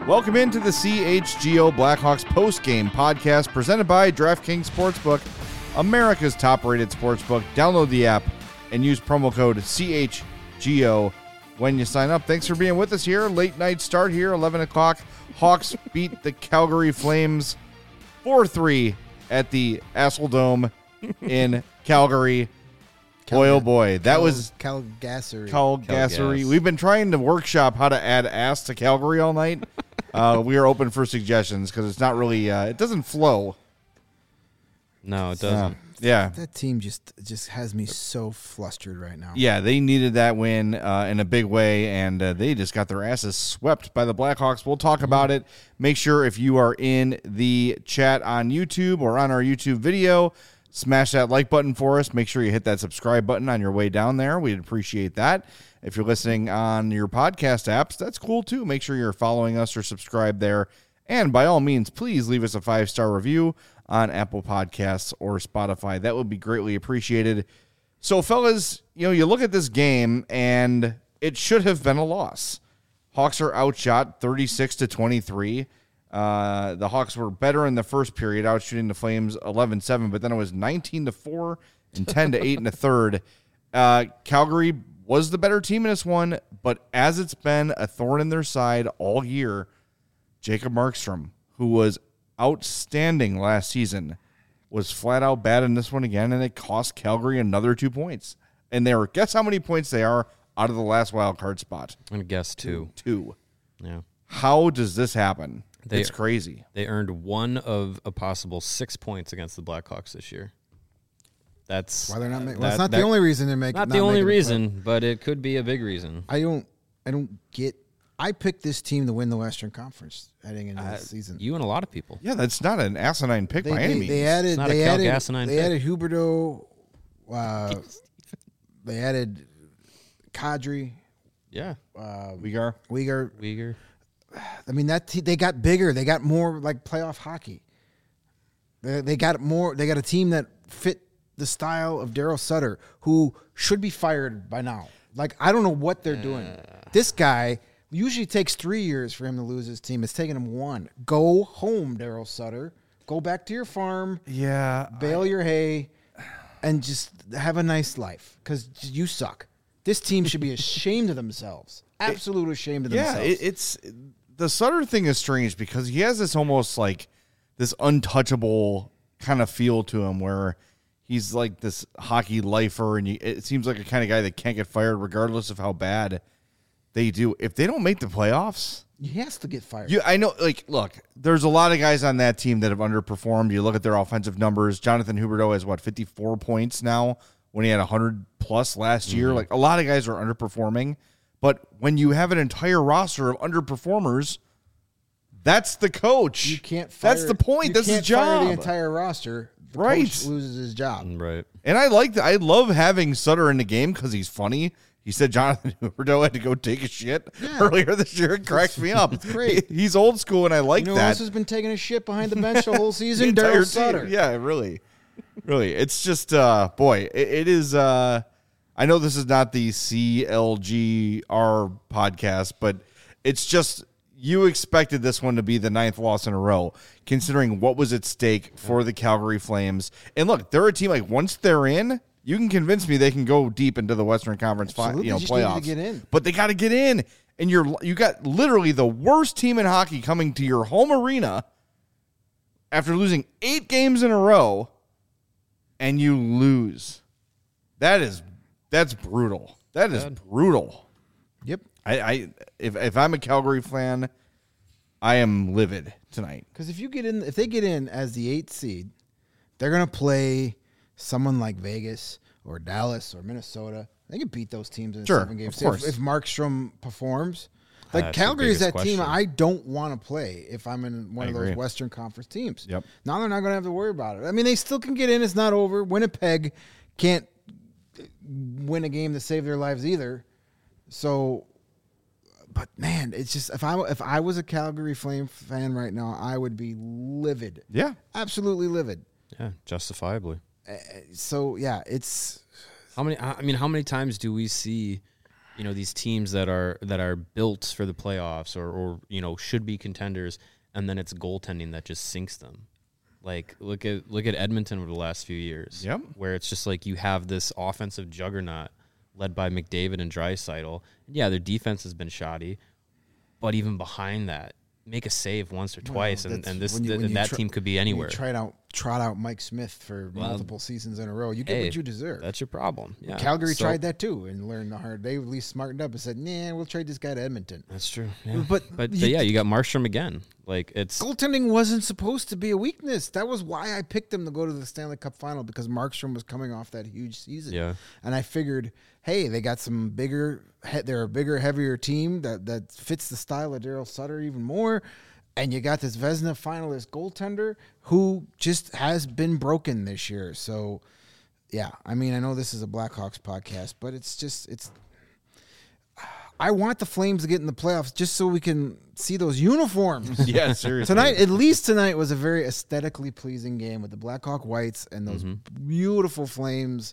Welcome into the CHGO Blackhawks post-game podcast presented by DraftKings Sportsbook, America's top-rated sportsbook. Download the app and use promo code CHGO when you sign up. Thanks for being with us here. Late night start here, 11 o'clock. Hawks beat the Calgary Flames 4-3 at the Assel Dome in Calgary. Boy, oh boy, that was Calgary. We've been trying to workshop how to add ass to Calgary all night. We are open for suggestions because it's not really, it doesn't flow. No, it doesn't. Yeah. That team just has me so flustered right now. Yeah, they needed that win in a big way, and they just got their asses swept by the Blackhawks. We'll talk about it. Make sure if you are in the chat on YouTube or on our YouTube video, smash that like button for us. Make sure you hit that subscribe button on your way down there. We'd appreciate that. If you're listening on your podcast apps, that's cool too. Make sure you're following us or subscribe there. And by all means, please leave us a 5-star review on Apple Podcasts or Spotify. That would be greatly appreciated. So, fellas, you look at this game, and it should have been a loss. Hawks are outshot 36-23. The Hawks were better in the first period, outshooting the Flames 11-7, but then it was 19-4 and 10-8 in the third. Calgary was the better team in this one, but as it's been a thorn in their side all year, Jacob Markstrom, who was outstanding last season, was flat out bad in this one again, and it cost Calgary another 2 points. And guess how many points they are out of the last wild card spot? I'm going to guess 2. 2. Yeah. How does this happen? It's crazy. They earned one of a possible 6 points against the Blackhawks this year. That's why they're not making. Well, it's not the only reason they're making. Not the only reason, but it could be a big reason. I don't get. I picked this team to win the Western Conference heading into this season. You and a lot of people. Yeah, that's not an asinine pick by any means. They added Huberdeau. They added Kadri. Yeah. Uyghur. I mean, they got bigger. They got more like playoff hockey. They got more. They got a team that fit the style of Daryl Sutter, who should be fired by now. Like, I don't know what they're doing. This guy usually takes 3 years for him to lose his team. It's taking him 1. Go home, Daryl Sutter. Go back to your farm. Yeah. Bale your hay and just have a nice life because you suck. This team should be ashamed of themselves. Absolutely ashamed of themselves. Yeah, it's the Sutter thing is strange because he has this almost like this untouchable kind of feel to him where he's like this hockey lifer, and it seems like a kind of guy that can't get fired regardless of how bad they do. If they don't make the playoffs, he has to get fired. I know. Like, look, there's a lot of guys on that team that have underperformed. You look at their offensive numbers. Jonathan Huberdeau has 54 points now when he had 100 plus last year. Like, a lot of guys are underperforming. But when you have an entire roster of underperformers, that's the coach. You can't fire. That's the point. That's his job. Fire the entire roster. The coach loses his job. Right. And I love having Sutter in the game because he's funny. He said Jonathan Huberdeau had to go take a shit earlier this year. It cracks me up. It's great. He's old school, and I like that. Who else has been taking a shit behind the bench the whole season? Daryl Sutter. Yeah, really. It's just, boy, it is. I know this is not the CLGR podcast, but it's just, you expected this one to be the 9th loss in a row, considering what was at stake for the Calgary Flames. And look, they're a team, like, once they're in, you can convince me they can go deep into the Western Conference playoffs. To get in. But they got to get in. And you got literally the worst team in hockey coming to your home arena after losing 8 games in a row, and you lose. That's brutal. That is brutal. Yep. If I'm a Calgary fan, I am livid tonight. Because if they get in as the 8th seed, they're gonna play someone like Vegas or Dallas or Minnesota. They can beat those teams in 7 games. Of course. If Markstrom performs, like Calgary is that team I don't want to play if I'm in one of those Western Conference teams. Yep. Now they're not gonna have to worry about it. I mean, they still can get in. It's not over. Winnipeg can't win a game to save their lives either. So, but man, it's just if I was a Calgary Flame fan right now, I would be livid. Yeah, absolutely livid. Yeah, justifiably. So yeah, it's how many times do we see these teams that are built for the playoffs or should be contenders, and then it's goaltending that just sinks them. Like look at Edmonton over the last few years, Yep. where it's just like you have this offensive juggernaut led by McDavid and Draisaitl. Yeah, their defense has been shoddy, but even behind that, make a save once or twice, and that team could be anywhere. Trot out Mike Smith for multiple seasons in a row. You get what you deserve. That's your problem. Yeah. Calgary tried that too and learned the hard. They at least smartened up and said, "Nah, we'll trade this guy to Edmonton." That's true. Yeah. But you got Markstrom again. Like it's goaltending wasn't supposed to be a weakness. That was why I picked them to go to the Stanley Cup final, because Markstrom was coming off that huge season. Yeah. And I figured, hey, they got some bigger. They're a bigger, heavier team that fits the style of Daryl Sutter even more. And you got this Vezina finalist goaltender who just has been broken this year. So, yeah, I mean, I know this is a Blackhawks podcast, but it's. I want the Flames to get in the playoffs just so we can see those uniforms. Yeah, seriously. At least tonight was a very aesthetically pleasing game with the Blackhawk whites and those beautiful Flames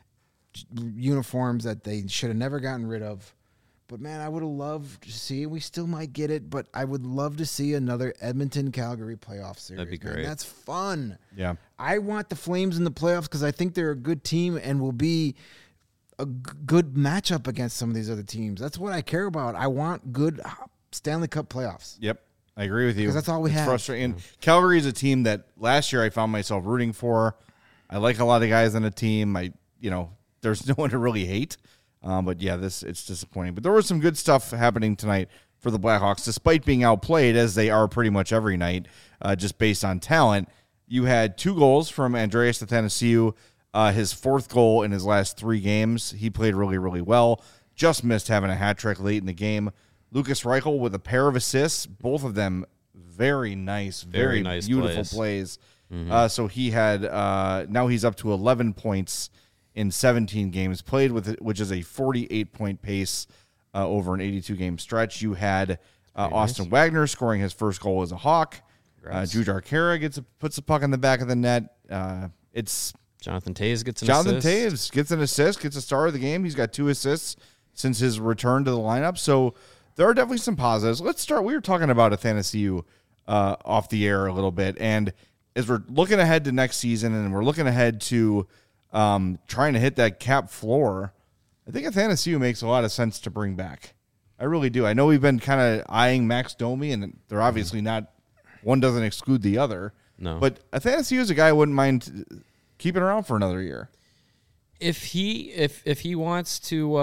uniforms that they should have never gotten rid of. But, man, I would have loved to see, we still might get it, but I would love to see another Edmonton-Calgary playoff series. That'd be great. Man, that's fun. Yeah. I want the Flames in the playoffs because I think they're a good team and will be a good matchup against some of these other teams. That's what I care about. I want good Stanley Cup playoffs. Yep. I agree with you. Because that's all we have. Frustrating. Calgary is a team that last year I found myself rooting for. I like a lot of guys on the team. There's no one to really hate. But yeah, it's disappointing. But there was some good stuff happening tonight for the Blackhawks, despite being outplayed as they are pretty much every night, just based on talent. You had 2 goals from Andreas Athanasiou, his 4th goal in his last 3 games. He played really, really well. Just missed having a hat trick late in the game. Lucas Reichel with a pair of assists, both of them very nice, very nice beautiful plays. Mm-hmm. So he had now he's up to 11 points in 17 games played, which is a 48-point pace over an 82-game stretch. You had Austin Wagner scoring his first goal as a Hawk. Jujhar Khaira puts the puck in the back of the net. It's Jonathan Toews gets an Jonathan assist. Toews gets an assist, gets a star of the game. He's got 2 assists since his return to the lineup. So there are definitely some positives. Let's start. We were talking about Athanasiou off the air a little bit, and as we're looking ahead to next season and we're looking ahead to trying to hit that cap floor, I think Athanasiou makes a lot of sense to bring back. I really do. I know we've been kind of eyeing Max Domi, and they're obviously not. One doesn't exclude the other. No, but Athanasiou is a guy I wouldn't mind keeping around for another year. If he wants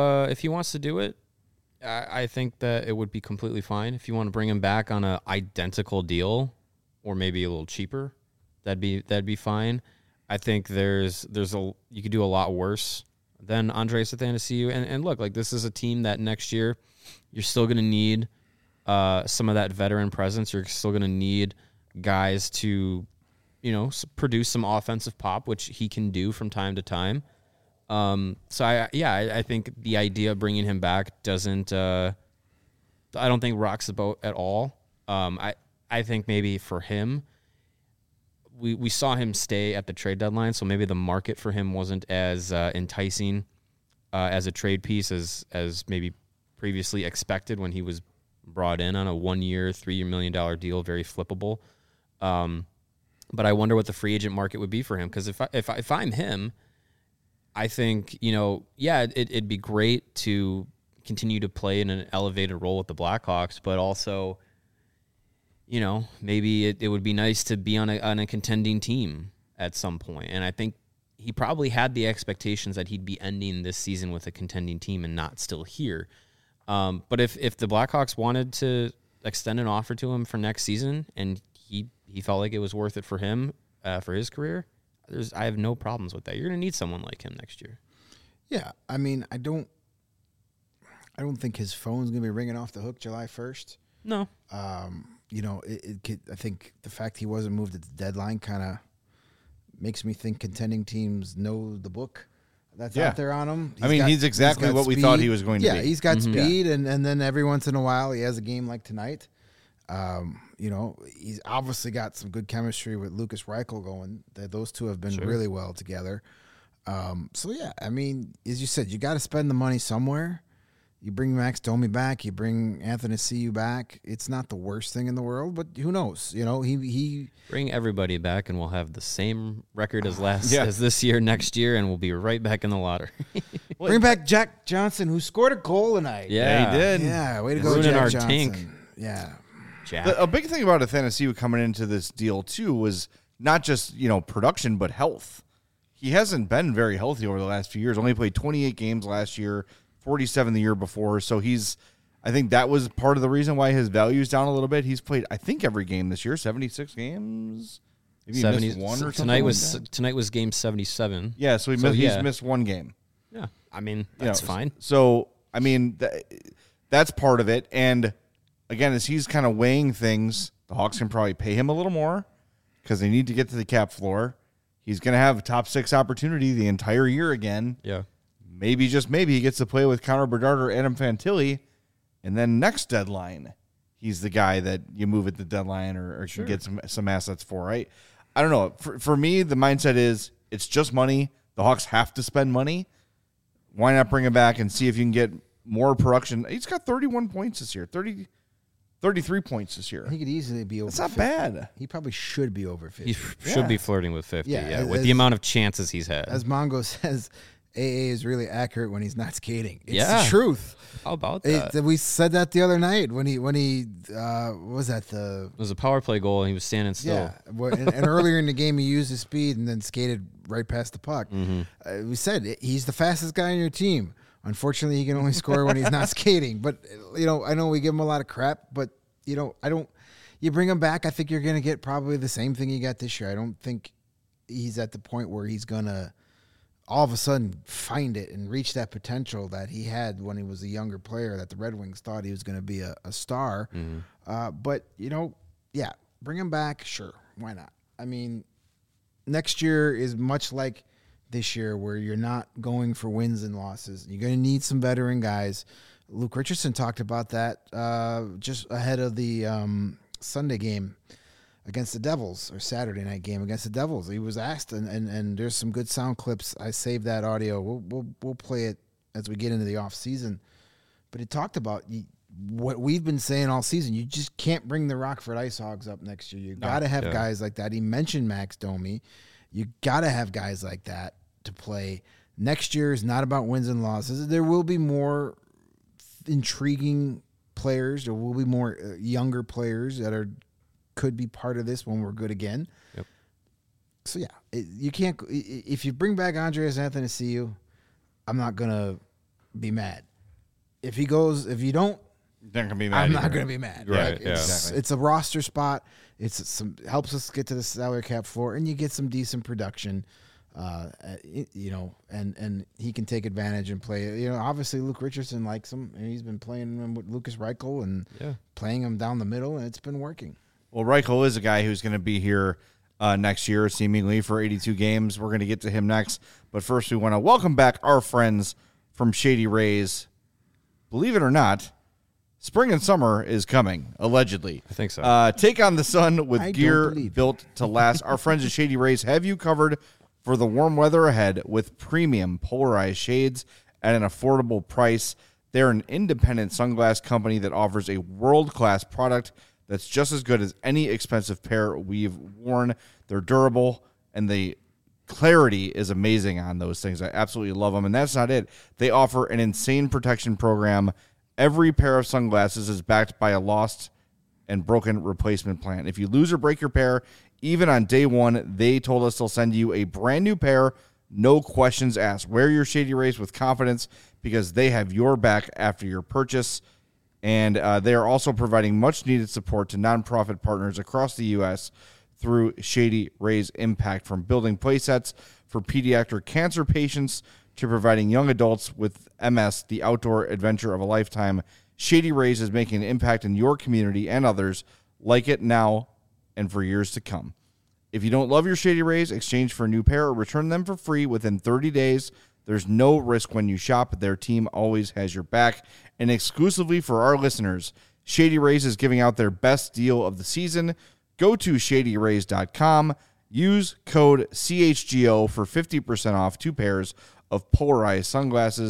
to do it, I think that it would be completely fine. If you want to bring him back on an identical deal, or maybe a little cheaper, that'd be fine. I think you could do a lot worse than Andreas Athanasiou. And look, like, this is a team that next year you're still going to need some of that veteran presence. You're still going to need guys to, produce some offensive pop, which he can do from time to time. So I think the idea of bringing him back doesn't. I don't think rocks the boat at all. I think maybe for him, we saw him stay at the trade deadline, so maybe the market for him wasn't as enticing as a trade piece as maybe previously expected when he was brought in on a 1-year, $3 million deal, very flippable. But I wonder what the free agent market would be for him, because if I'm him, I think it'd be great to continue to play in an elevated role with the Blackhawks, but also, maybe it would be nice to be on a contending team at some point. And I think he probably had the expectations that he'd be ending this season with a contending team and not still here. But if the Blackhawks wanted to extend an offer to him for next season and he felt like it was worth it for him, for his career, I have no problems with that. You're going to need someone like him next year. Yeah, I mean, I don't think his phone's going to be ringing off the hook July 1st. No. I think the fact he wasn't moved at the deadline kind of makes me think contending teams know the book that's out there on him. He's exactly what we thought he was going to be. Yeah, he's got speed, and then every once in a while he has a game like tonight. He's obviously got some good chemistry with Lucas Reichel going. Those two have been really well together. As you said, you got to spend the money somewhere. You bring Max Domi back, you bring Anthony Ciu back. It's not the worst thing in the world, but who knows? You know, he Bring everybody back, and we'll have the same record as Yeah. as this year, next year, and we'll be right back in the lottery. bring back Jack Johnson, who scored a goal tonight. Yeah, he did. Yeah, way to go, Ruining Jack our Johnson. tank. Yeah. Jack. A big thing about Athanasiou coming into this deal too was not just production, but health. He hasn't been very healthy over the last few years. Only played 28 games last year, 47 the year before. So I think that was part of the reason why his value is down a little bit. He's played, I think, every game this year, 76 games. Maybe he missed one or something. Tonight was game 77. Yeah, so he's missed one game. Yeah, I mean that's fine. So I mean that's part of it. And again, as he's kind of weighing things, the Hawks can probably pay him a little more because they need to get to the cap floor. He's going to have a top 6 opportunity the entire year again. Yeah. Maybe, just maybe, he gets to play with Connor Bedard or Adam Fantilli, and then next deadline, he's the guy that you move at the deadline or can get some assets for, right? I don't know. For me, the mindset is it's just money. The Hawks have to spend money. Why not bring him back and see if you can get more production? He's got 31 points this year, 33 points this year. He could easily be over. That's not 50. bad. He probably should be over 50. He should be flirting with 50. Yeah, Yeah, with the amount of chances he's had. As Mongo says, AA is really accurate when he's not skating. It's Yeah. the truth. How about that? We said that the other night when he what was that the It was a power play goal, and he was standing still. yeah and earlier in the game he used his speed and then skated right past the puck. We said he's the fastest guy on your team. Unfortunately, he can only score when he's not skating. But I know we give him a lot of crap, but I don't. You bring him back, I think you're going to get probably the same thing you got this year. I don't think he's at the point where he's going to all of a sudden find it and reach that potential that he had when he was a younger player, that the Red Wings thought he was going to be a star. But, bring him back. Sure. Why not? I mean, next year is much like this year where you're not going for wins and losses. You're going to need some veteran guys. Luke Richardson talked about that just ahead of the Sunday game against the Devils, or Saturday night game against the Devils. He was asked, and there's some good sound clips. I saved that audio. We'll play it as we get into the off season. But he talked about what we've been saying all season. You just can't bring the Rockford Ice Hogs up next year. You got to have guys like that. He mentioned Max Domi. You got to have guys like that to play. Next year is not about wins and losses. There will be more intriguing players. There will be more younger players that could be part of this when we're good again. Yep. So you can't. If you bring back Andreas Athanasiou, I'm not gonna be mad. If you don't, Not gonna be mad I'm not either. gonna be mad. Right, It's a roster spot. Helps us get to the salary cap floor, and you get some decent production. And he can take advantage and play. Obviously Luke Richardson likes him, and he's been playing him with Lucas Reichel and playing him down the middle, and it's been working. Well, Reichel is a guy who's going to be here next year, seemingly, for 82 games. We're going to get to him next. But first, we want to welcome back our friends from Shady Rays. Believe it or not, spring and summer is coming, allegedly. I think so. Take on the sun with I don't gear believe built to last. Our friends at Shady Rays have you covered for the warm weather ahead with premium polarized shades at an affordable price. They're an independent sunglass company that offers a world-class product that's just as good as any expensive pair we've worn. They're durable, and the clarity is amazing on those things. I absolutely love them. And that's not it. They offer an insane protection program. Every pair of sunglasses is backed by a lost and broken replacement plan. If you lose or break your pair, even on day one, they told us they'll send you a brand new pair, no questions asked. Wear your Shady Rays with confidence because they have your back after your purchase. And they are also providing much-needed support to nonprofit partners across the U.S. through Shady Rays Impact, from building playsets for pediatric cancer patients to providing young adults with MS the outdoor adventure of a lifetime. Shady Rays is making an impact in your community and others like it now and for years to come. If you don't love your Shady Rays, exchange for a new pair or return them for free within 30 days. There's no risk when you shop. Their team always has your back. And exclusively for our listeners, Shady Rays is giving out their best deal of the season. Go to shadyrays.com. Use code CHGO for 50% off 2 pairs of polarized sunglasses.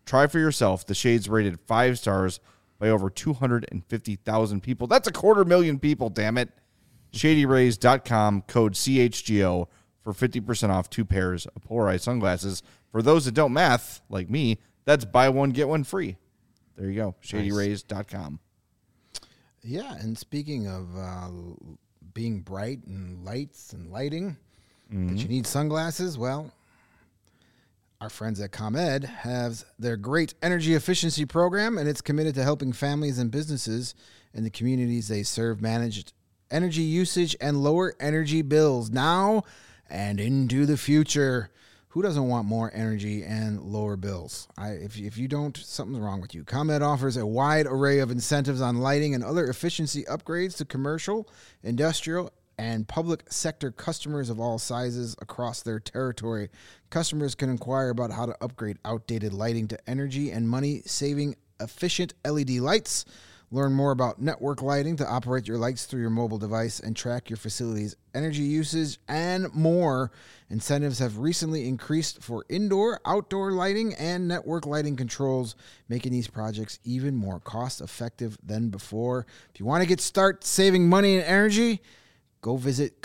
Try for yourself. The Shades rated 5 stars by over 250,000 people. That's 250,000 people, damn it. ShadyRays.com, code CHGO for 50% off 2 pairs of polarized sunglasses. For those that don't math, like me, that's buy one, get one free. There you go, ShadyRays.com. Yeah, and speaking of being bright and lights and lighting, that you need sunglasses, well, our friends at ComEd have their great energy efficiency program, and it's committed to helping families and businesses in the communities they serve manage energy usage and lower energy bills now and into the future. Who doesn't want more energy and lower bills? If you don't, something's wrong with you. ComEd offers a wide array of incentives on lighting and other efficiency upgrades to commercial, industrial, and public sector customers of all sizes across their territory. Customers can inquire about how to upgrade outdated lighting to energy and money-saving efficient LED lights. Learn more about network lighting to operate your lights through your mobile device and track your facility's energy usage and more. Incentives have recently increased for indoor, outdoor lighting, and network lighting controls, making these projects even more cost-effective than before. If you want to get start saving money and energy, go visit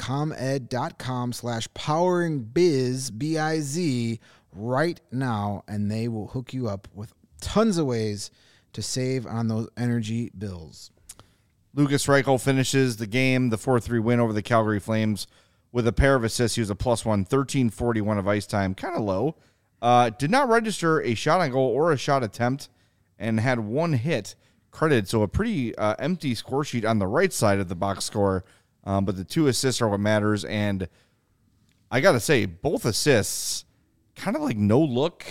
comed.com/poweringbiz, B-I-Z, right now, and they will hook you up with tons of ways to save on those energy bills. Lukas Reichel finishes the game, the 4-3 win over the Calgary Flames, with a pair of assists. He was a +1, 13:41 of ice time, kind of low. Did not register a shot on goal or a shot attempt, and had 1 hit credited. So a pretty empty score sheet on the right side of the box score, but the 2 assists are what matters. And I got to say, both assists, kind of like no look.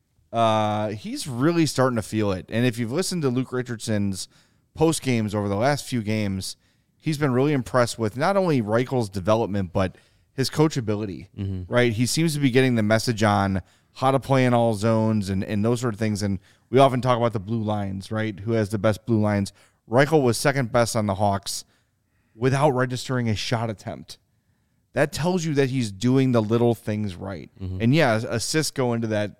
He's really starting to feel it. And if you've listened to Luke Richardson's post games over the last few games, he's been really impressed with not only Reichel's development, but his coachability, right? He seems to be getting the message on how to play in all zones and those sort of things. And we often talk about the blue lines, right? Who has the best blue lines? Reichel was second best on the Hawks without registering a shot attempt. That tells you that he's doing the little things right. And yeah, assists go into that,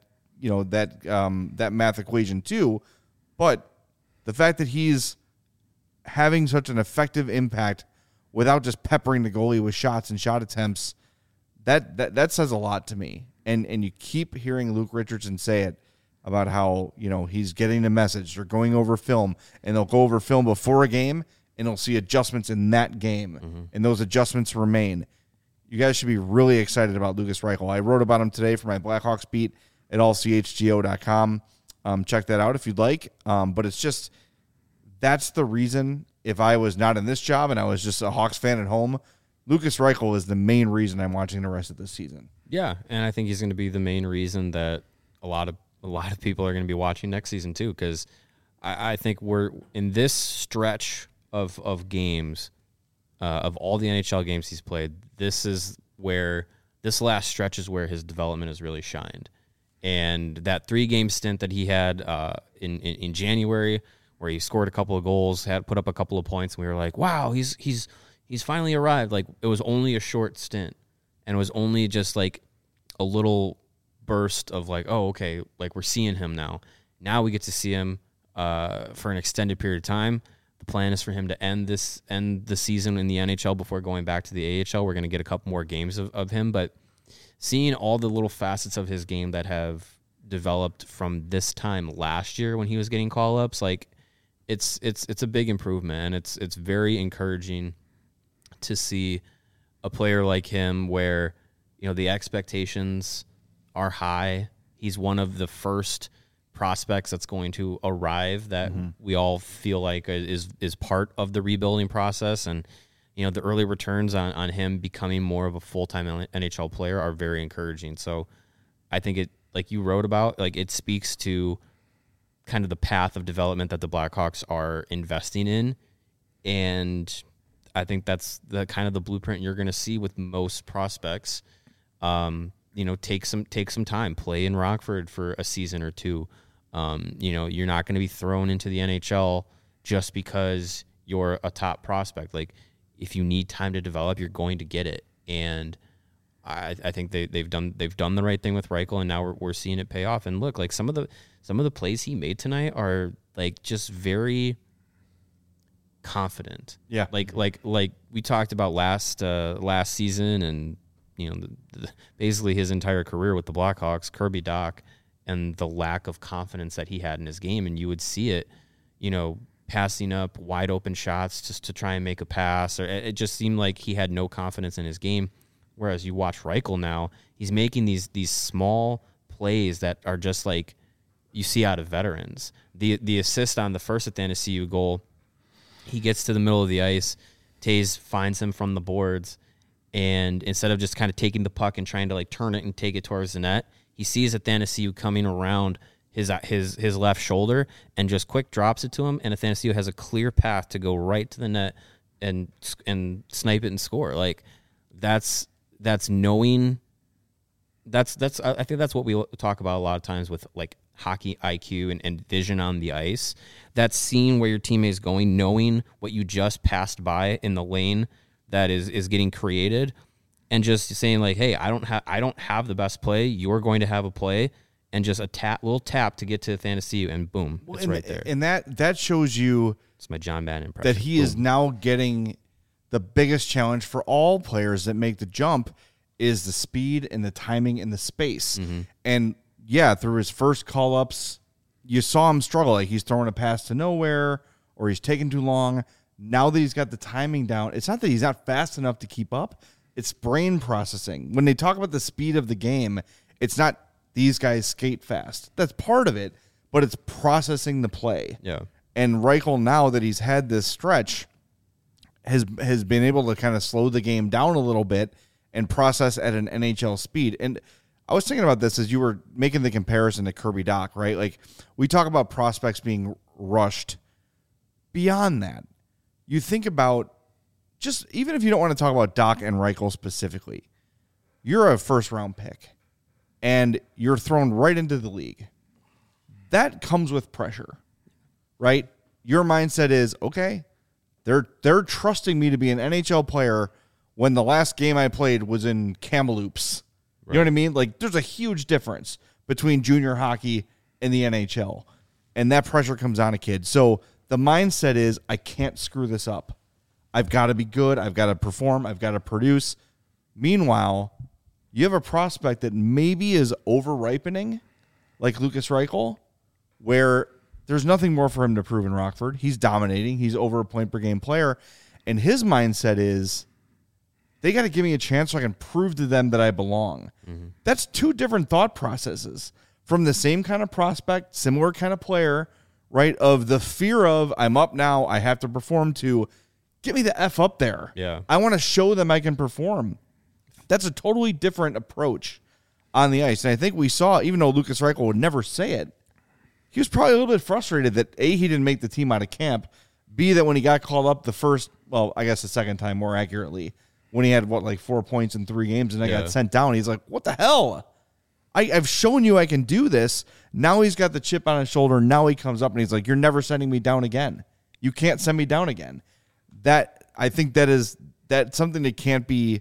that math equation too. But the fact that he's having such an effective impact without just peppering the goalie with shots and shot attempts, that says a lot to me. And you keep hearing Luke Richardson say it about how, he's getting the message. They're going over film, and they'll go over film before a game, and they'll see adjustments in that game, and those adjustments remain. You guys should be really excited about Lukas Reichel. I wrote about him today for my Blackhawks beat at allchgo.com. Check that out if you'd like. But it's just, that's the reason, if I was not in this job and I was just a Hawks fan at home, Lukas Reichel is the main reason I'm watching the rest of this season. Yeah, and I think he's going to be the main reason that a lot of people are going to be watching next season too, because I think we're in this stretch of games, of all the NHL games he's played, this last stretch is where his development has really shined. And that 3-game stint that he had in January, where he scored a couple of goals, had put up a couple of points, and we were like, wow, he's finally arrived. Like, it was only a short stint, and it was only just like a little burst of like, oh, okay, like we're seeing him now. Now we get to see him for an extended period of time. The plan is for him to end the season in the NHL before going back to the AHL. We're going to get a couple more games of him, but seeing all the little facets of his game that have developed from this time last year when he was getting call-ups, like it's a big improvement, and it's very encouraging to see a player like him where, the expectations are high. He's one of the first prospects that's going to arrive that we all feel like is part of the rebuilding process. And, the early returns on him becoming more of a full-time NHL player are very encouraging. So I think it, like you wrote about, like it speaks to kind of the path of development that the Blackhawks are investing in. And I think that's the kind of the blueprint you're going to see with most prospects. Take some time, play in Rockford for a season or two. You're not going to be thrown into the NHL just because you're a top prospect. Like, if you need time to develop, you're going to get it. And I think they've done the right thing with Reichel, and now we're seeing it pay off. And look, like some of the plays he made tonight are like just very confident. Yeah. Like we talked about last season, and basically his entire career with the Blackhawks, Kirby Dach, and the lack of confidence that he had in his game, and you would see it, passing up wide open shots just to try and make a pass, or it just seemed like he had no confidence in his game. Whereas you watch Reichel now, he's making these small plays that are just like you see out of veterans. The assist on the first Athanasiou goal, he gets to the middle of the ice, Taves finds him from the boards, and instead of just kind of taking the puck and trying to like turn it and take it towards the net, he sees Athanasiou coming around his left shoulder and just quick drops it to him, and Athanasiou has a clear path to go right to the net and snipe it and score. Like that's knowing. I think that's what we talk about a lot of times with like hockey IQ and vision on the ice. That's seeing where your teammate is going, knowing what you just passed by in the lane that is getting created, and just saying like, hey, I don't have the best play. You're going to have a play, and just a little tap to get to Athanasiou, and boom, it's right there. And that shows you it's my John Madden impression. that he is now getting the biggest challenge for all players that make the jump is the speed and the timing and the space. Mm-hmm. And yeah, through his first call-ups, you saw him struggle. Like he's throwing a pass to nowhere or he's taking too long. Now that he's got the timing down, it's not that he's not fast enough to keep up. It's brain processing. When they talk about the speed of the game, it's not these guys skate fast. That's part of it, but it's processing the play. Yeah. And Reichel, now that he's had this stretch, has been able to kind of slow the game down a little bit and process at an NHL speed. And I was thinking about this as you were making the comparison to Kirby Dach, right? Like we talk about prospects being rushed. Beyond that, you think about just even if you don't want to talk about Dach and Reichel specifically, you're a first-round pick and you're thrown right into the league. That comes with pressure, right? Your mindset is, okay, they're trusting me to be an NHL player when the last game I played was in Kamloops. You know what I mean? Like, there's a huge difference between junior hockey and the NHL, and that pressure comes on a kid. So the mindset is, I can't screw this up. I've got to be good. I've got to perform. I've got to produce. Meanwhile, you have a prospect that maybe is over-ripening, like Lukas Reichel, where there's nothing more for him to prove in Rockford. He's dominating. He's over a point-per-game player, and his mindset is, they got to give me a chance so I can prove to them that I belong. Mm-hmm. That's two different thought processes from the same kind of prospect, similar kind of player, right? Of the fear of I'm up now, I have to perform, to get me the F up there. Yeah. I want to show them I can perform. That's a totally different approach on the ice. And I think we saw, even though Lukas Reichel would never say it, he was probably a little bit frustrated that A, he didn't make the team out of camp, B, that when he got called up the second time more accurately, when he had, 4 points in 3 games and I got sent down. He's like, what the hell? I've shown you I can do this. Now he's got the chip on his shoulder. Now he comes up and he's like, you're never sending me down again. You can't send me down again. I think that's something that can't be,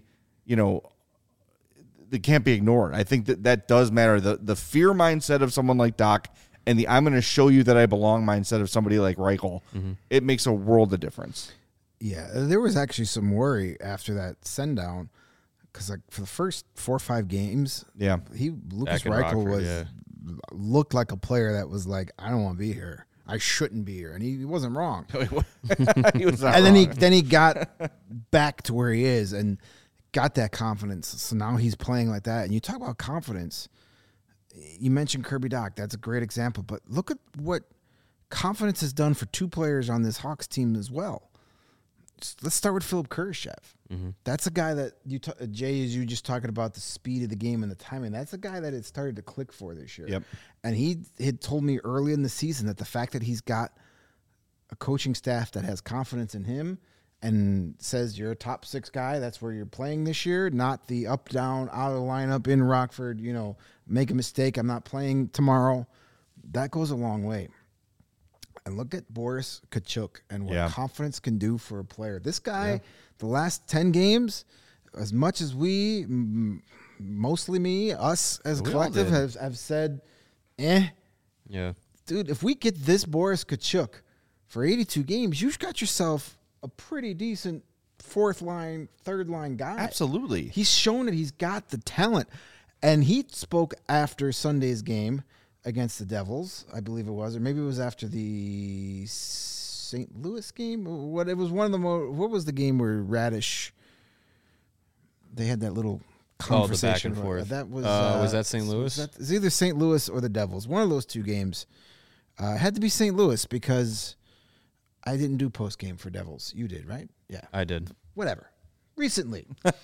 that can't be ignored. I think that does matter. The fear mindset of someone like Dach and the I'm going to show you that I belong mindset of somebody like Reichel, it makes a world of difference. Yeah, there was actually some worry after that send down because for the first 4 or 5 games, Lukas Reichel looked like a player that was like, I don't want to be here. I shouldn't be here, and he wasn't wrong. He was not and wrong. then he got back to where he is and got that confidence. So now he's playing like that. And you talk about confidence. You mentioned Kirby Dach. That's a great example. But look at what confidence has done for 2 players on this Hawks team as well. Let's start with Philip Kurashev. Mm-hmm. That's a guy that Jay, as you just talking about the speed of the game and the timing. That's a guy that it started to click for this year. Yep. And he had told me early in the season that the fact that he's got a coaching staff that has confidence in him and says you're a top 6 guy, that's where you're playing this year, not the up, down, out of the lineup in Rockford, make a mistake, I'm not playing tomorrow. That goes a long way. And look at Boris Tkachuk and what confidence can do for a player. This guy, the last 10 games, as much as we, mostly me, us as We all collective did. have said, Yeah. dude, if we get this Boris Kachuk for 82 games, you've got yourself a pretty decent fourth line, third line guy. Absolutely. He's shown that he's got the talent. And he spoke after Sunday's game against the Devils, I believe it was, or maybe it was after the St. Louis game. What it was one of the what was the game where Radish they had that little conversation back and forth. That was that St. Louis? It's either St. Louis or the Devils. One of those two games. It had to be St. Louis because I didn't do post game for Devils. You did, right? Yeah. I did. Whatever. Recently,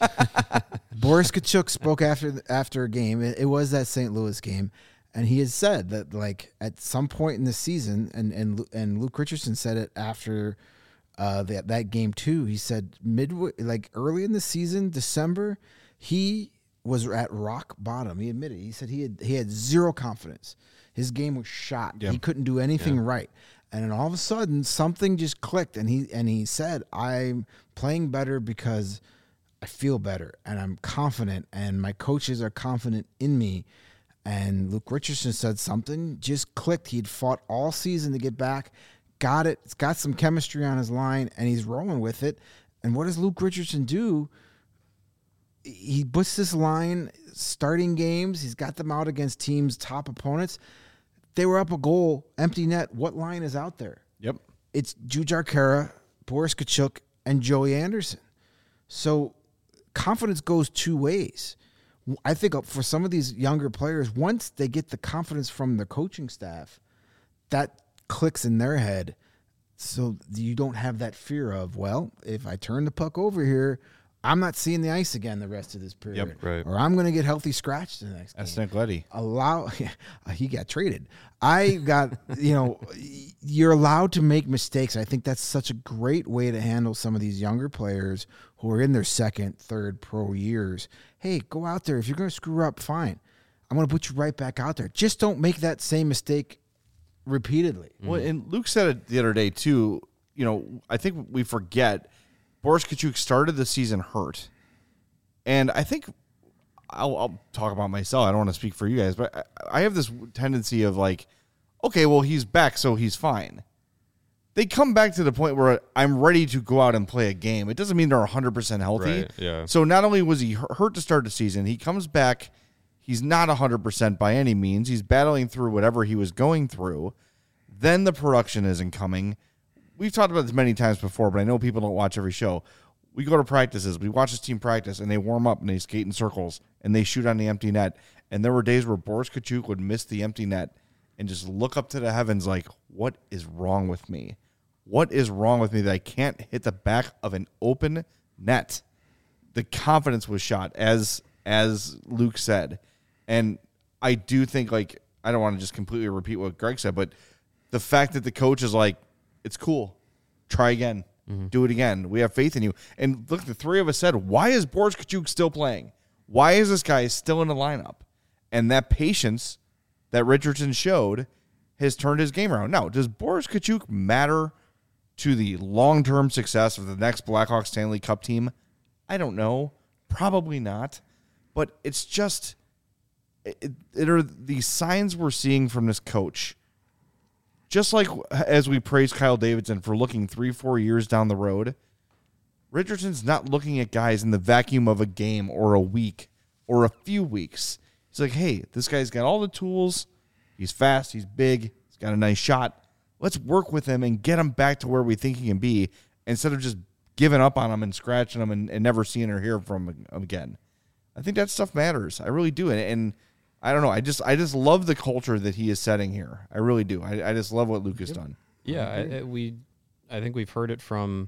Boris Kachuk spoke after a game. It was that St. Louis game, and he has said that like at some point in the season, and Luke Richardson said it after that game too. He said midway, like early in the season, December, he was at rock bottom. He admitted. He said he had zero confidence. His game was shot. Yeah. He couldn't do anything right. And then all of a sudden, something just clicked, and he said, "I'm playing better because I feel better, and I'm confident, and my coaches are confident in me." And Luke Richardson said something just clicked. He'd fought all season to get back, got it. It's got some chemistry on his line, and he's rolling with it. And what does Luke Richardson do? He puts this line starting games. He's got them out against teams' top opponents. They were up a goal, empty net. What line is out there? Yep. It's Jujhar Khaira, Boris Kachuk, and Joey Anderson. So confidence goes two ways. I think for some of these younger players, once they get the confidence from the coaching staff, that clicks in their head. So you don't have that fear of, well, if I turn the puck over here, I'm not seeing the ice again the rest of this period. Yep, right. Or I'm going to get healthy scratched the next That's game. Nick Leddy. He got traded. I got, you're allowed to make mistakes. I think that's such a great way to handle some of these younger players who are in their second, third pro years. Hey, go out there. If you're going to screw up, fine. I'm going to put you right back out there. Just don't make that same mistake repeatedly. Well, and Luke said it the other day too. I think we forget Boris Kachuk started the season hurt, and I think I'll talk about myself. I don't want to speak for you guys, but I have this tendency of like, okay, well, he's back, so he's fine. They come back to the point where I'm ready to go out and play a game. It doesn't mean they're 100% healthy. Right, yeah. So not only was he hurt to start the season, he comes back. He's not 100% by any means. He's battling through whatever he was going through. Then the production isn't coming. We've talked about this many times before, but I know people don't watch every show. We go to practices. We watch this team practice, and they warm up, and they skate in circles, and they shoot on the empty net. And there were days where Boris Kachuk would miss the empty net and just look up to the heavens like, what is wrong with me? What is wrong with me that I can't hit the back of an open net? The confidence was shot, as Luke said. And I do think, like, I don't want to just completely repeat what Greg said, but the fact that the coach is like, it's cool. Try again. Do it again. We have faith in you. And look, the three of us said, why is Boris Kachuk still playing? Why is this guy still in the lineup? And that patience that Richardson showed has turned his game around. Now, does Boris Kachuk matter to the long-term success of the next Blackhawks Stanley Cup team? I don't know. Probably not. But it's just, it are the signs we're seeing from this coach. Just like as we praise Kyle Davidson for looking 3-4 years down the road, Richardson's not looking at guys in the vacuum of a game or a week or a few weeks. He's like, hey, this guy's got all the tools. He's fast. He's big. He's got a nice shot. Let's work with him and get him back to where we think he can be instead of just giving up on him and scratching him and never seeing or hearing from him again. I think that stuff matters. I really do. And I don't know. I just love the culture that he is setting here. I really do. I just love what Luke has done. Yeah, I think we've heard it from,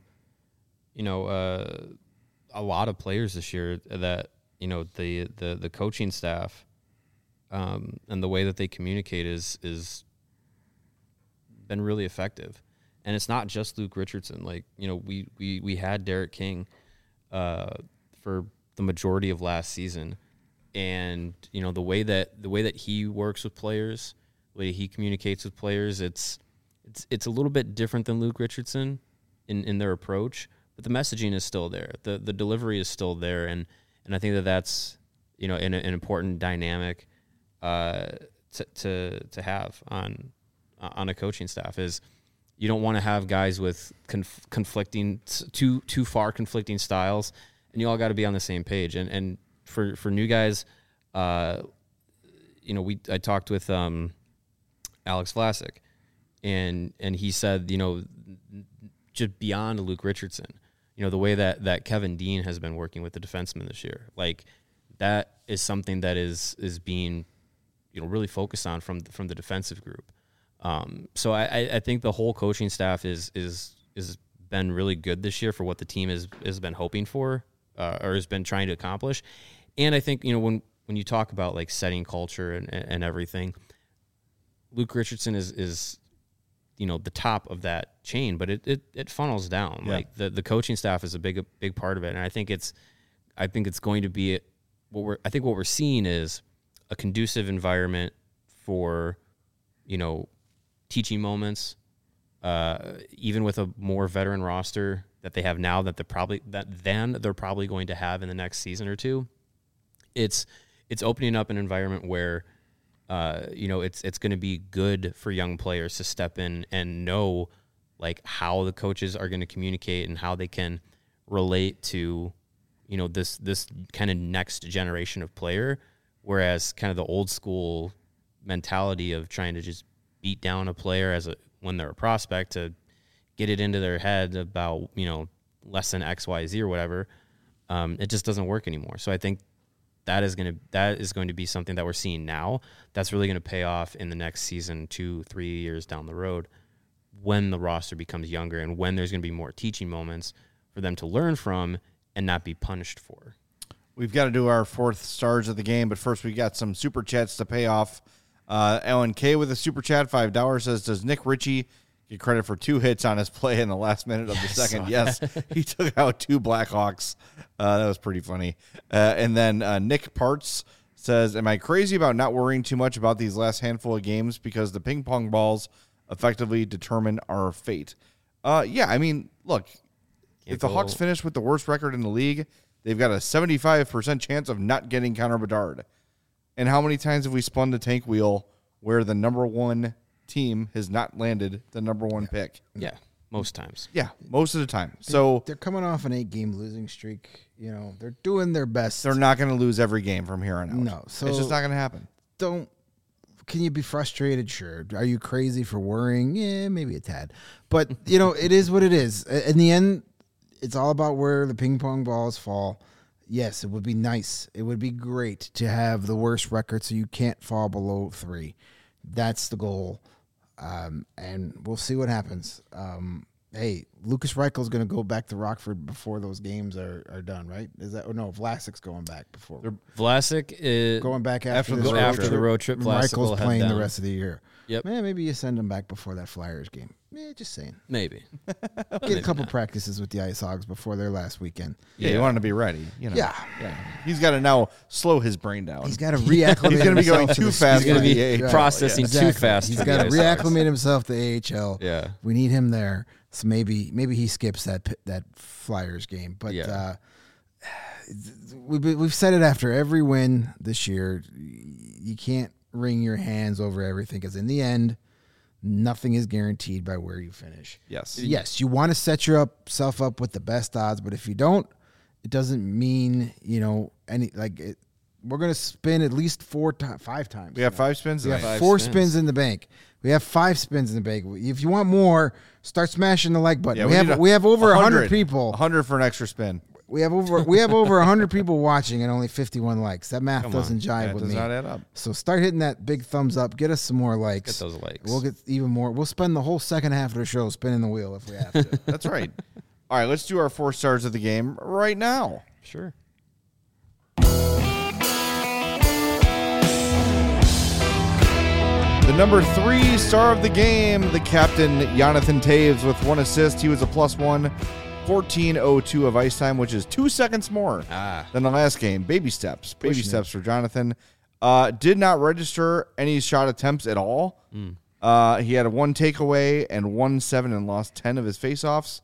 a lot of players this year that the coaching staff, and the way that they communicate is been really effective, and it's not just Luke Richardson. Like we had Derek King, for the majority of last season. And the way that he works with players, the way he communicates with players, it's a little bit different than Luke Richardson in their approach. but the messaging is still there. The delivery is still there, and I think that's an important dynamic to have on a coaching staff is you don't want to have guys with conflicting too far conflicting styles, and you all got to be on the same page. And for new guys, I talked with Alex Vlasic, and he said, just beyond Luke Richardson, the way that Kevin Dean has been working with the defensemen this year, like that is something that is being, really focused on from the defensive group. So I think the whole coaching staff is been really good this year for what the team has been hoping for, or has been trying to accomplish. And I think, when you talk about like setting culture and everything, Luke Richardson is the top of that chain, but it funnels down. Yeah. Like the coaching staff is a big part of it. And I think it's going to be what we're seeing is a conducive environment for, teaching moments, even with a more veteran roster that they have now that they're probably going to have in the next season or two. It's opening up an environment where, it's going to be good for young players to step in and know like how the coaches are going to communicate and how they can relate to, this kind of next generation of player. Whereas kind of the old school mentality of trying to just beat down a player when they're a prospect to get it into their head about, less than X, Y, Z or whatever. It just doesn't work anymore. So I think that is going to be something that we're seeing now. That's really going to pay off in the next season, 2-3 years down the road, when the roster becomes younger and when there's going to be more teaching moments for them to learn from and not be punished for. We've got to do our fourth stars of the game, but first we got some super chats to pay off. Ellen K with a super chat, $5 says, does Nick Ritchie get credit for 2 hits on his play in the last minute of the second? Yes, he took out 2 Blackhawks. That was pretty funny. And then Nick Parts says, am I crazy about not worrying too much about these last handful of games because the ping pong balls effectively determine our fate? Yeah, I mean, look, if the Hawks finish with the worst record in the league, they've got a 75% chance of not getting Connor Bedard. And how many times have we spun the tank wheel where the number one team has not landed the number one pick? Yeah, most times. Yeah, most of the time. So they're coming off an 8-game losing streak. They're doing their best. They're not going to lose every game from here on out. No, so it's just not going to happen. Can you be frustrated? Sure. Are you crazy for worrying? Yeah, maybe a tad. But, it is what it is. In the end, it's all about where the ping pong balls fall. Yes, it would be nice. It would be great to have the worst record so you can't fall below 3. That's the goal. And we'll see what happens. Hey, Lucas Reichel's going to go back to Rockford before those games are done, right? Is that? Or no, Vlasic's going back before. Vlasic is going back after the road trip. Reichel's playing the rest of the year. Yep. Man, maybe you send him back before that Flyers game. Just saying. Maybe. Get a couple practices with the Ice Hogs before their last weekend. Yeah, you want to be ready. Yeah. He's got to now slow his brain down. He's got to reacclimate. He's going to be going too fast. He's going to be processing too fast. He's got to reacclimate himself to AHL. Yeah. We need him there. So maybe he skips that Flyers game. But we've said it after every win this year. You can't wring your hands over everything because in the end, nothing is guaranteed by where you finish. Yes, you want to set yourself up with the best odds, but if you don't, it doesn't mean any like it. We're going to spin at least 5 times. We have 5 spins. We have 4 spins in the bank. We have 5 spins in the bank. If you want more, start smashing the like button. Yeah, we have over 100 people. 100 for an extra spin. We have over 100 people watching and only 51 likes. That math doesn't jive with me. Does not add up. So start hitting that big thumbs up. Get us some more likes. Get those likes. We'll get even more. We'll spend the whole second half of the show spinning the wheel if we have to. That's right. All right, let's do our 4 stars of the game right now. Sure. The number 3 star of the game, the captain, Jonathan Taves, with 1 assist. He was a +1, 14:02 of ice time, which is 2 seconds more than the last game. Baby steps. Baby steps for Jonathan. Did not register any shot attempts at all. He had 1 takeaway and 1 7 and lost 10 of his faceoffs.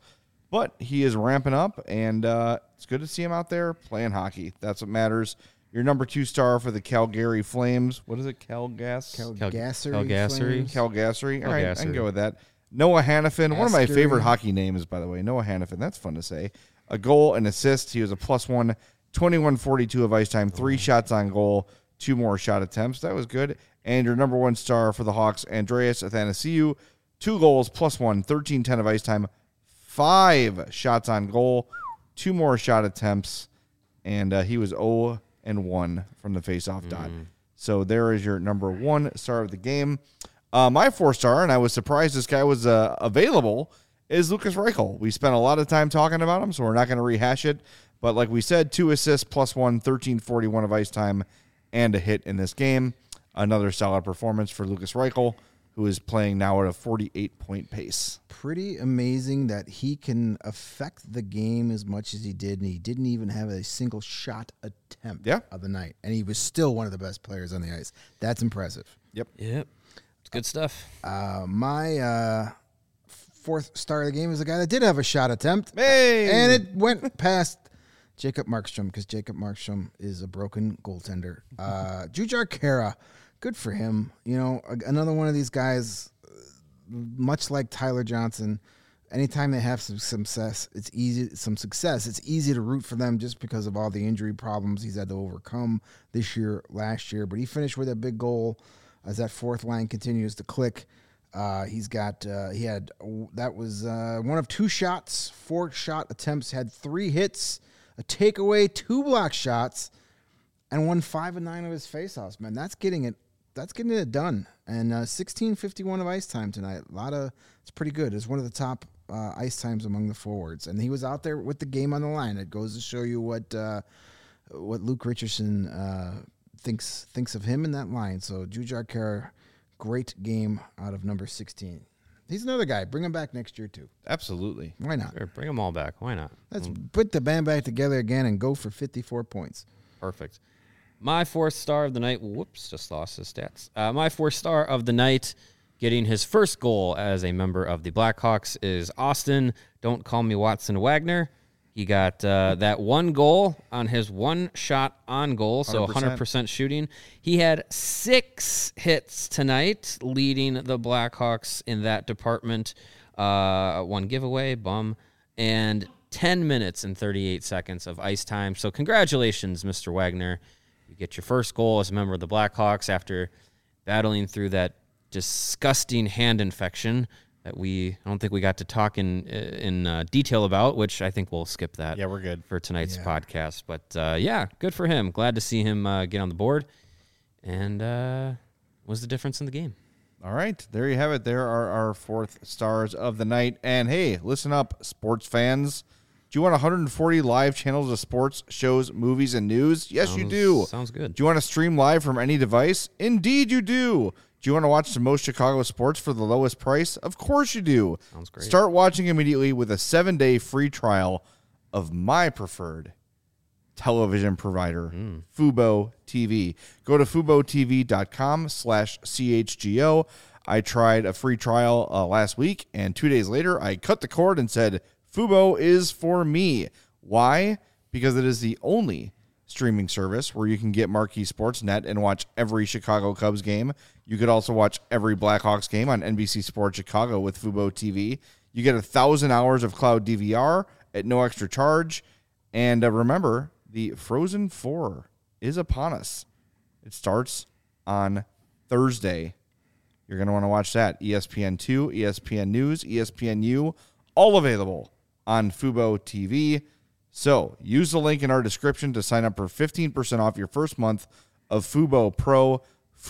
but he is ramping up, and it's good to see him out there playing hockey. That's what matters. Your number 2 star for the Calgary Flames. What is it? Calgary. Calgary. Calgary. All right, I can go with that. Noah Hannafin, one of my favorite hockey names, by the way. Noah Hannafin. That's fun to say. A goal, an assist. He was a +1, 21:42 of ice time, 3 shots on goal, 2 more shot attempts. That was good. And your number 1 star for the Hawks, Andreas Athanasiou, 2 goals, +1, 13:10 of ice time, 5 shots on goal, 2 more shot attempts, and he was 0-1 from the faceoff dot. So there is your number 1 star of the game. My 4-star, and I was surprised this guy was available, is Lukas Reichel. We spent a lot of time talking about him, so we're not going to rehash it. But like we said, 2 assists, +1, 13:41 of ice time, and a hit in this game. Another solid performance for Lukas Reichel, who is playing now at a 48-point pace. Pretty amazing that he can affect the game as much as he did, and he didn't even have a single shot attempt of the night. And he was still one of the best players on the ice. That's impressive. Yep. It's good stuff. My 4th star of the game is a guy that did have a shot attempt. Hey! And it went past Jacob Markstrom, because Jacob Markstrom is a broken goaltender. Jujhar Khaira, good for him. You know, another one of these guys, much like Tyler Johnson, anytime they have some success, it's easy to root for them just because of all the injury problems he's had to overcome this year, last year. But he finished with a big goal as that 4th line continues to click. That was one of 2 shots, 4 shot attempts, had 3 hits, a takeaway, 2 block shots, and won 5 of 9 of his faceoffs. Man, that's getting it done. And 16:51 of ice time tonight. It's pretty good. It's one of the top ice times among the forwards, and he was out there with the game on the line. It goes to show you what Luke Richardson thinks of him in that line. So Jujhar Khaira, great game out of number 16. He's another guy. Bring him back next year, too. Absolutely. Why not? Sure, bring them all back. Why not? Let's put the band back together again and go for 54 points. Perfect. My 4th star of the night. Whoops, just lost his stats. My 4th star of the night, getting his first goal as a member of the Blackhawks, is Austin. Don't call me Watson Wagner. He got that 1 goal on his 1 shot on goal, so 100% shooting. He had 6 hits tonight, leading the Blackhawks in that department. 1 giveaway, and 10 minutes and 38 seconds of ice time. So congratulations, Mr. Wagner. You get your first goal as a member of the Blackhawks after battling through that disgusting hand infection that I don't think we got to talk in detail about, which I think we'll skip that. Yeah, we're good for tonight's podcast. But good for him. Glad to see him get on the board. And was the difference in the game. All right, there you have it. There are our 4th stars of the night. And hey, listen up, sports fans. Do you want 140 live channels of sports, shows, movies, and news? Yes, you do. Sounds good. Do you want to stream live from any device? Indeed, you do. Do you want to watch the most Chicago sports for the lowest price? Of course you do. Sounds great. Start watching immediately with a 7-day free trial of my preferred television provider, Fubo TV. Go to FuboTV.com/CHGO. I tried a free trial last week, and 2 days later, I cut the cord and said, Fubo is for me. Why? Because it is the only streaming service where you can get Marquee Sportsnet and watch every Chicago Cubs game. You could also watch every Blackhawks game on NBC Sports Chicago with Fubo TV. You get 1,000 hours of cloud DVR at no extra charge. And remember, the Frozen 4 is upon us. It starts on Thursday. You're going to want to watch that. ESPN2, ESPN News, ESPNU, all available on Fubo TV. So use the link in our description to sign up for 15% off your first month of Fubo Pro,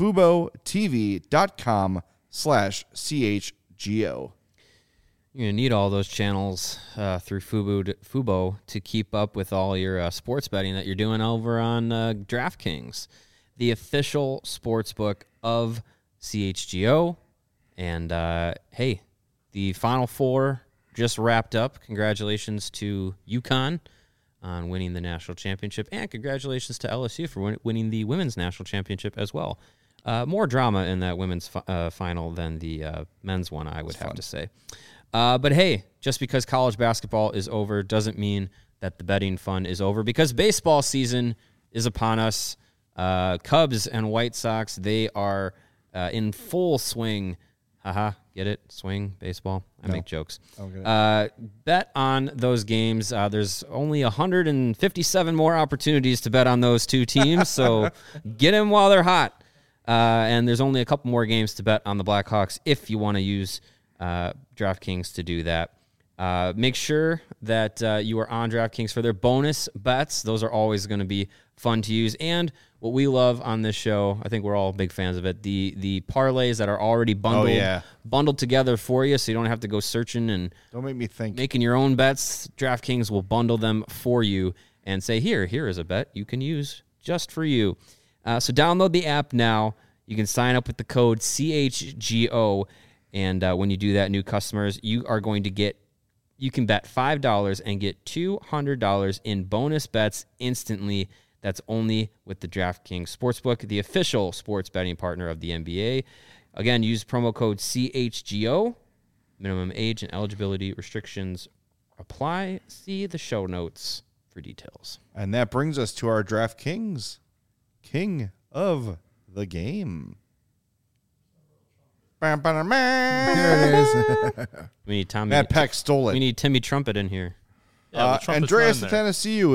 FuboTV.com/CHGO. You're going to need all those channels through Fubo to keep up with all your sports betting that you're doing over on DraftKings, the official sports book of CHGO. And, hey, the Final Four just wrapped up. Congratulations to UConn on winning the national championship, and congratulations to LSU for winning the women's national championship as well. More drama in that women's final than the men's one, I would have to say. But hey, just because college basketball is over doesn't mean that the betting fun is over, because baseball season is upon us. Cubs and White Sox, they are in full swing. Haha, get it? Swing, baseball. I make jokes. Bet on those games. There's only 157 more opportunities to bet on those two teams, so get them while they're hot. And there's only a couple more games to bet on the Blackhawks if you want to use DraftKings to do that. Make sure that you are on DraftKings for their bonus bets. Those are always going to be fun to use. And what we love on this show, I think we're all big fans of it, the parlays that are already bundled together for you, so you don't have to go searching and Don't make me think. making your own bets. DraftKings will bundle them for you and say, here is a bet you can use just for you. So download the app now. You can sign up with the code CHGO, and when you do that, new customers, you can bet $5 and get $200 in bonus bets instantly. That's only with the DraftKings Sportsbook, the official sports betting partner of the NBA. Again, use promo code CHGO. Minimum age and eligibility restrictions apply. See the show notes for details. And that brings us to our DraftKings King of the Game. There it is. We need Tommy. Matt Peck stole it. We need Timmy Trumpet in here. Yeah, the trumpet's Andreas not in there. Athanasiou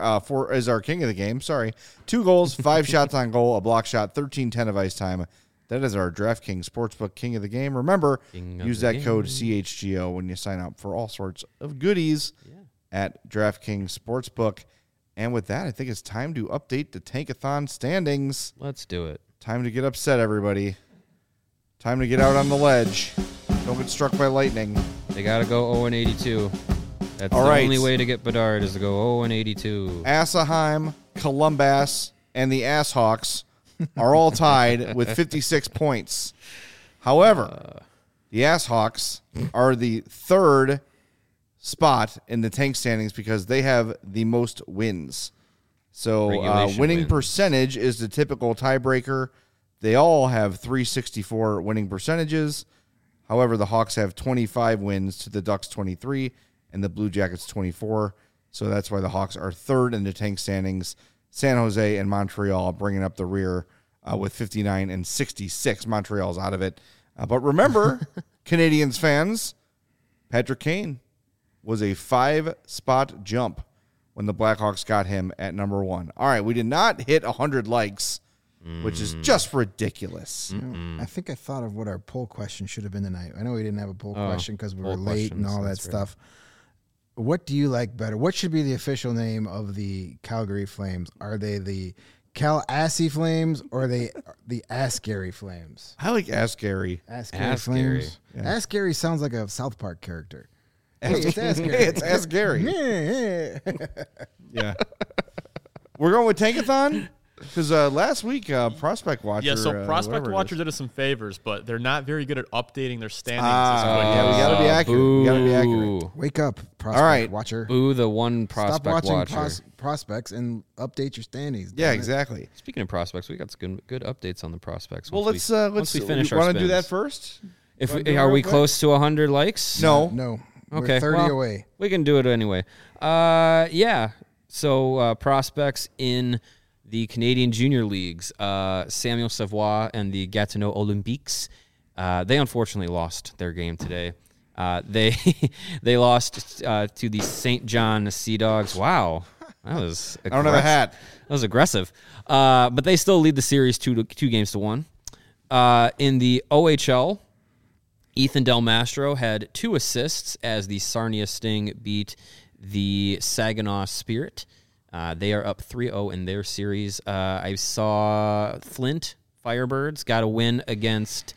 is our king of the game. Sorry. 2 goals, 5 shots on goal, a block shot, 13-10 of ice time. That is our DraftKings Sportsbook king of the game. Remember, use that code CHGO when you sign up for all sorts of goodies at DraftKings Sportsbook. And with that, I think it's time to update the Tankathon standings. Let's do it. Time to get upset, everybody. Time to get out on the ledge. Don't get struck by lightning. They got to go 0-82. That's All the right. only way to get Bedard is to go 0-82. Anaheim, Columbus, and the Asshawks are all tied with 56 points. However, the Asshawks are the 3rd spot in the tank standings because they have the most wins. So Regulation winning wins. percentage is the typical tiebreaker. They all have 364 winning percentages. However, the Hawks have 25 wins to the Ducks 23 and the Blue Jackets 24. So that's why the Hawks are 3rd in the tank standings. San Jose and Montreal bringing up the rear with 59 and 66. Montreal's out of it. But remember, Canadians fans, Patrick Kane was a 5-spot jump when the Blackhawks got him at number 1. All right, we did not hit 100 likes, which is just ridiculous. I think I thought of what our poll question should have been tonight. I know we didn't have a poll question because we were poll late and questions, all that that's right. stuff. What do you like better? What should be the official name of the Calgary Flames? Are they the Cal-Assy Flames or the Ascari Flames? I like Ask Gary. Ascari Flames. Ascari sounds like a South Park character. Hey, it's Ascari. Hey, it's Ask Gary. Yeah. Yeah. We're going with Tankathon? Because last week, Prospect Watcher. Yeah, so Prospect whatever it Watcher is. did us some favors, but they're not very good at updating their standings. Yeah, we got to be accurate. We got to be accurate. Boo. Wake up, Prospect All right. Watcher. Boo the one Stop prospect watching watcher. prospects and update your standings. Yeah, damn it. exactly. Speaking of prospects, we got some good updates on the prospects. Well, once let's we finish our want to do that spins. first? If wanna we, do it are real we quick? close to 100 likes? No. No. Okay, We're 30 well, away. We can do it anyway. Yeah. So prospects in the Canadian Junior Leagues, Samuel Savoie and the Gatineau Olympiques, they unfortunately lost their game today. They lost to the St. John Sea Dogs. Wow, that was I don't have a hat. That was aggressive. But they still lead the series 2-1. In the OHL, Ethan Del Mastro had 2 assists as the Sarnia Sting beat the Saginaw Spirit. They are up 3-0 in their series. I saw Flint Firebirds got a win against,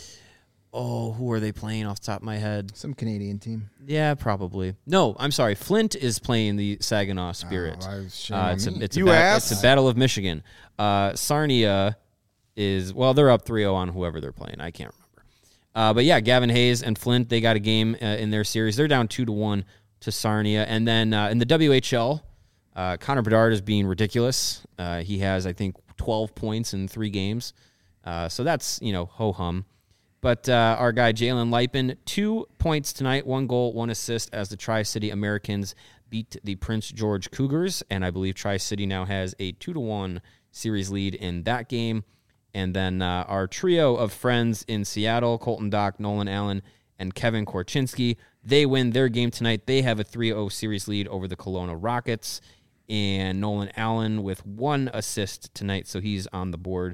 who are they playing off the top of my head? Some Canadian team. Yeah, probably. No, I'm sorry. Flint is playing the Saginaw Spirit. Shame on me. It's You ass. a Battle of Michigan. Sarnia is, they're up 3-0 on whoever they're playing. I can't remember. But yeah, Gavin Hayes and Flint, they got a game in their series. They're down 2-1 to Sarnia. And then in the WHL, Connor Bedard is being ridiculous. He has, I think, 12 points in 3 games. So that's, ho-hum. But our guy Jalen Lipin, 2 points tonight, 1 goal, 1 assist as the Tri-City Americans beat the Prince George Cougars. And I believe Tri-City now has a 2-1 series lead in that game. And then our trio of friends in Seattle, Colton Dock, Nolan Allen, and Kevin Korchinski, they win their game tonight. They have a 3-0 series lead over the Kelowna Rockets. And Nolan Allen with 1 assist tonight, so he's on the board.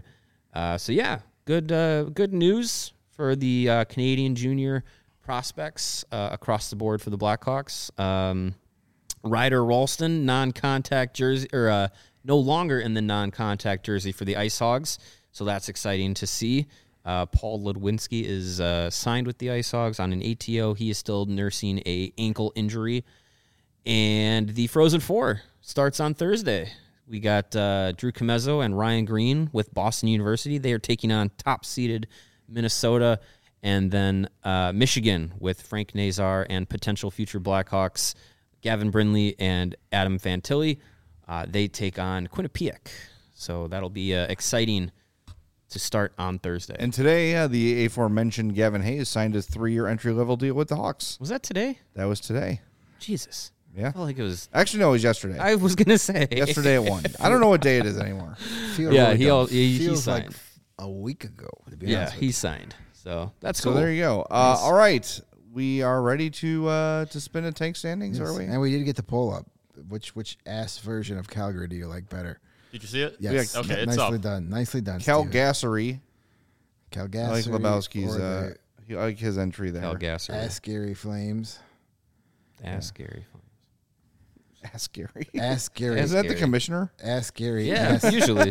Good news for the Canadian junior prospects across the board for the Blackhawks. Ryder Ralston, non-contact jersey, or no longer in the non-contact jersey for the Ice Hogs, so that's exciting to see. Paul Ludwinski is signed with the Ice Hogs on an ATO. He is still nursing a ankle injury. And the Frozen Four starts on Thursday. We got Drew Comezzo and Ryan Green with Boston University. They are taking on top-seeded Minnesota. And then Michigan with Frank Nazar and potential future Blackhawks, Gavin Brindley and Adam Fantilli. They take on Quinnipiac. So that'll be exciting to start on Thursday. And today, the aforementioned Gavin Hayes signed his 3-year entry-level deal with the Hawks. Was that today? That was today. Jesus. Yeah. I felt like it was... Actually, no, it was yesterday. I was going to say. Yesterday at 1. I don't know what day it is anymore. He Feels signed. like a week ago. To be Yeah, honest with he you. signed. So that's So cool. there you go. All right. We are ready to spin a tank standings, Yes. are we? And we did get the poll up. Which ass version of Calgary do you like better? Did you see it? Yes. Okay, it's nicely up. done. Nicely done. Cal Steven. Gassery. Cal I like Gassery Lebowski's. or I like his entry there. Cal the Gasser. Ass Gary Flames. That's scary. Ask Gary. Ass Gary. Isn't that the Gary. commissioner? Ass Gary. Yeah, Ass- usually.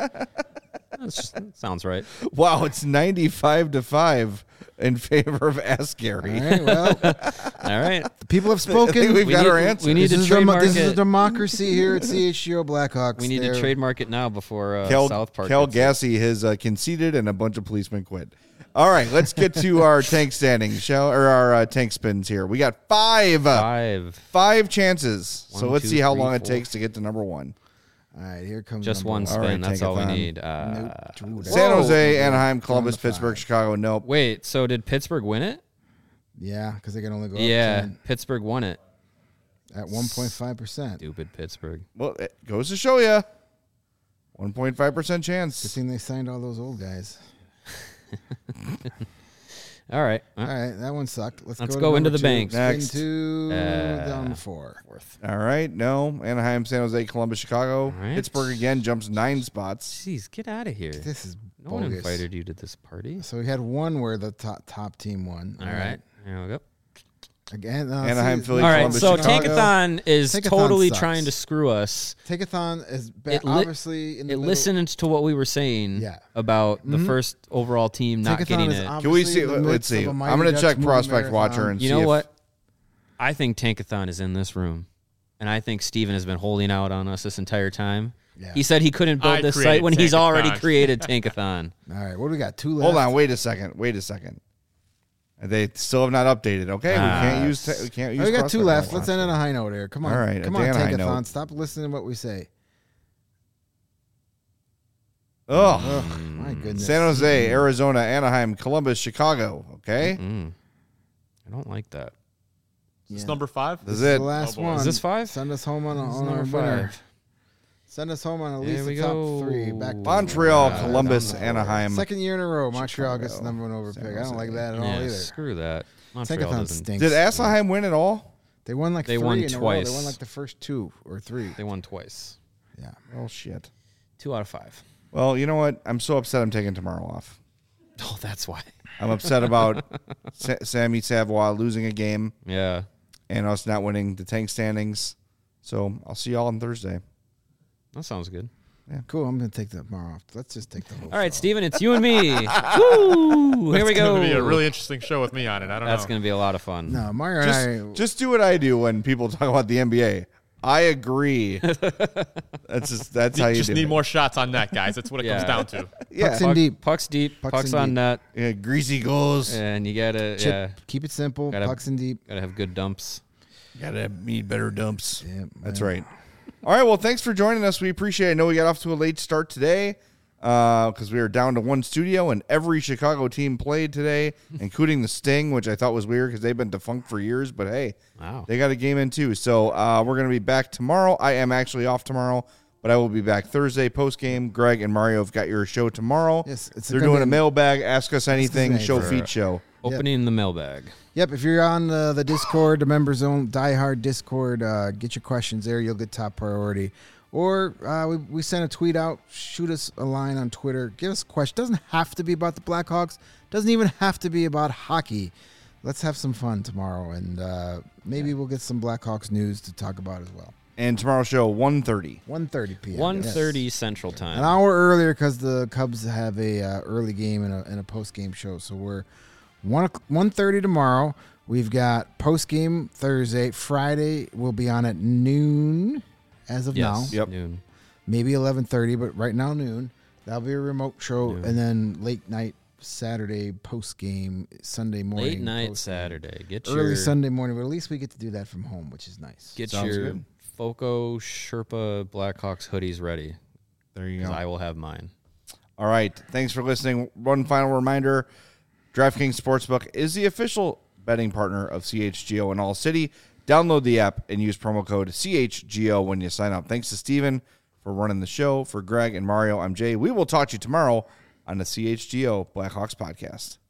That sounds right. Wow, it's 95-5 in favor of Ask Gary. All right. Well, All right. the people have I spoken. think we've got need- our answer. we need this to is trademark this is a it. democracy here at CHGO Blackhawks. We need to They're- trademark it now before Cal South Park. gets it. Gassy has conceded, and a bunch of policemen quit. All right, let's get to our tank standings, our tank spins here. We got 5 5. chances. So One, let's two, see how 3, long it 4. takes to get to number 1. All right, here comes Just number one spin. All right, That's all we Tankathon. need. Nope. San Whoa. Jose, Anaheim, Columbus, Down to Pittsburgh, 5. Chicago. Nope. Wait, so did Pittsburgh win it? Yeah, because they can only go Yeah, up 10 Pittsburgh won it. at 1.5%. Stupid Pittsburgh. Well, it goes to show you. 1.5% Good chance. thing they signed all those old guys. All right. All right, that one sucked. Let's Let's go, go to into number the 2. bank. Spin Next. to down 4. Fourth. All right. No. Anaheim, San Jose, Columbus, Chicago. All right. Pittsburgh again jumps 9 spots. Jeez, get out of here. This is No one bogus. invited you to this party. So we had one where the top team won. All right. Here we go. Again, Anaheim, see, Philly, All right, Columbus, so Chicago. Tankathon is Tankathon totally sucks. trying to screw us. Tankathon is It li- obviously in the It middle. listened to what we were saying Yeah. about the first overall team not Tankathon getting is it. Can we obviously see? in the Let's midst see. of a I'm Mighty going to Ducks check movie Prospect marathon. Watcher and You see know if- what? I think Tankathon is in this room. And I think Steven has been holding out on us this entire time. Yeah. He said he couldn't build I this created site when he's already Tankathon. created Tankathon. All right, what do we got? 2 left. Hold on. Wait a second. They still have not updated. Okay, we can't use. We can't use. Oh, we got 2 Prospect left. Watcher. Let's end on a high note here. Come on. All right, Come a on, Dan high Tankathon. note. Stop listening to what we say. Oh, My goodness. San Jose, Arizona, Anaheim, Columbus, Chicago. Okay, I don't like that. It's Yeah. number 5. this is The it. last boy. one. Is this 5? Send us home on, This is on our number winner. 5. Send us home on at There least we the top go. 3. Back to Montreal, Wow. Columbus, Down the Anaheim. Second year in a row, Montreal gets the Chicago, number 1 over San pick. I don't Jose. like that at all Yeah, either. screw that. Montreal Tankathon doesn't. stinks. Did Anaheim win at all? They won like They 3 won in a row. twice. They won like the first 2 or 3. They won twice. Yeah. Oh shit. 2 out of 5. Well, you know what? I'm so upset. I'm taking tomorrow off. Oh, that's why. I'm upset about Sammy Savoie losing a game Yeah. and us not winning the tank standings. So I'll see y'all on Thursday. That sounds good. Cool. I'm going to take the tomorrow off. Let's just take the whole All right, show. Steven, it's you and me. Woo! Here we It's go. going to be a really interesting show with me on it. I don't That's know. going to be a lot of fun. No, Mario and I. Just do what I do when people talk about the NBA. I agree. That's how you Just do need it. more shots on net, guys. That's what it Yeah. comes down to. Yeah. Pucks in deep. Pucks deep. Pucks Pucks in on deep. net. Yeah, greasy goals. And you gotta Chip, keep it simple. Gotta- Pucks in deep. gotta have good dumps. Gotta need better dumps. Yeah, That's man. right. All right. Well, thanks for joining us. We appreciate it. I know we got off to a late start today. because we are down to one studio, and every Chicago team played today, including the Sting, which I thought was weird because they've been defunct for years. But hey, Wow. they got a game in too. So we're going to be back tomorrow. I am actually off tomorrow, but I will be back Thursday post game. Greg and Mario have got your show tomorrow. Yes, it's they're gonna doing be a mailbag, ask us anything, anything. show feed show. Opening the mailbag. Yep, if you're on the Discord, the Members Zone, Die Hard Discord, get your questions there. You'll get top priority. Or we sent a tweet out. Shoot us a line on Twitter. Give us a question. Doesn't have to be about the Blackhawks. Doesn't even have to be about hockey. Let's have some fun tomorrow, and maybe we'll get some Blackhawks news to talk about as well. And tomorrow's show, 1:30. 1:30 p.m. 1:30 Yes. Central Time. An hour earlier because the Cubs have a early game and a post game show. So we're 1:30 tomorrow. We've got post game Thursday. Friday we'll be on at noon as of now. Yes, Yep. noon. Maybe 11:30, but right now noon. That'll be a remote show, Noon. and then late night Saturday post game, Sunday morning. Late night post-game. Saturday. Get Early your Sunday morning, but at least we get to do that from home, which is nice. get Sounds your good. Foco Sherpa Blackhawks hoodies ready. There you 'Cause go. I will have mine. All right. Thanks for listening. One final reminder, DraftKings Sportsbook is the official betting partner of CHGO in All City. Download the app and use promo code CHGO when you sign up. Thanks to Steven for running the show. For Greg and Mario, I'm Jay. We will talk to you tomorrow on the CHGO Blackhawks podcast.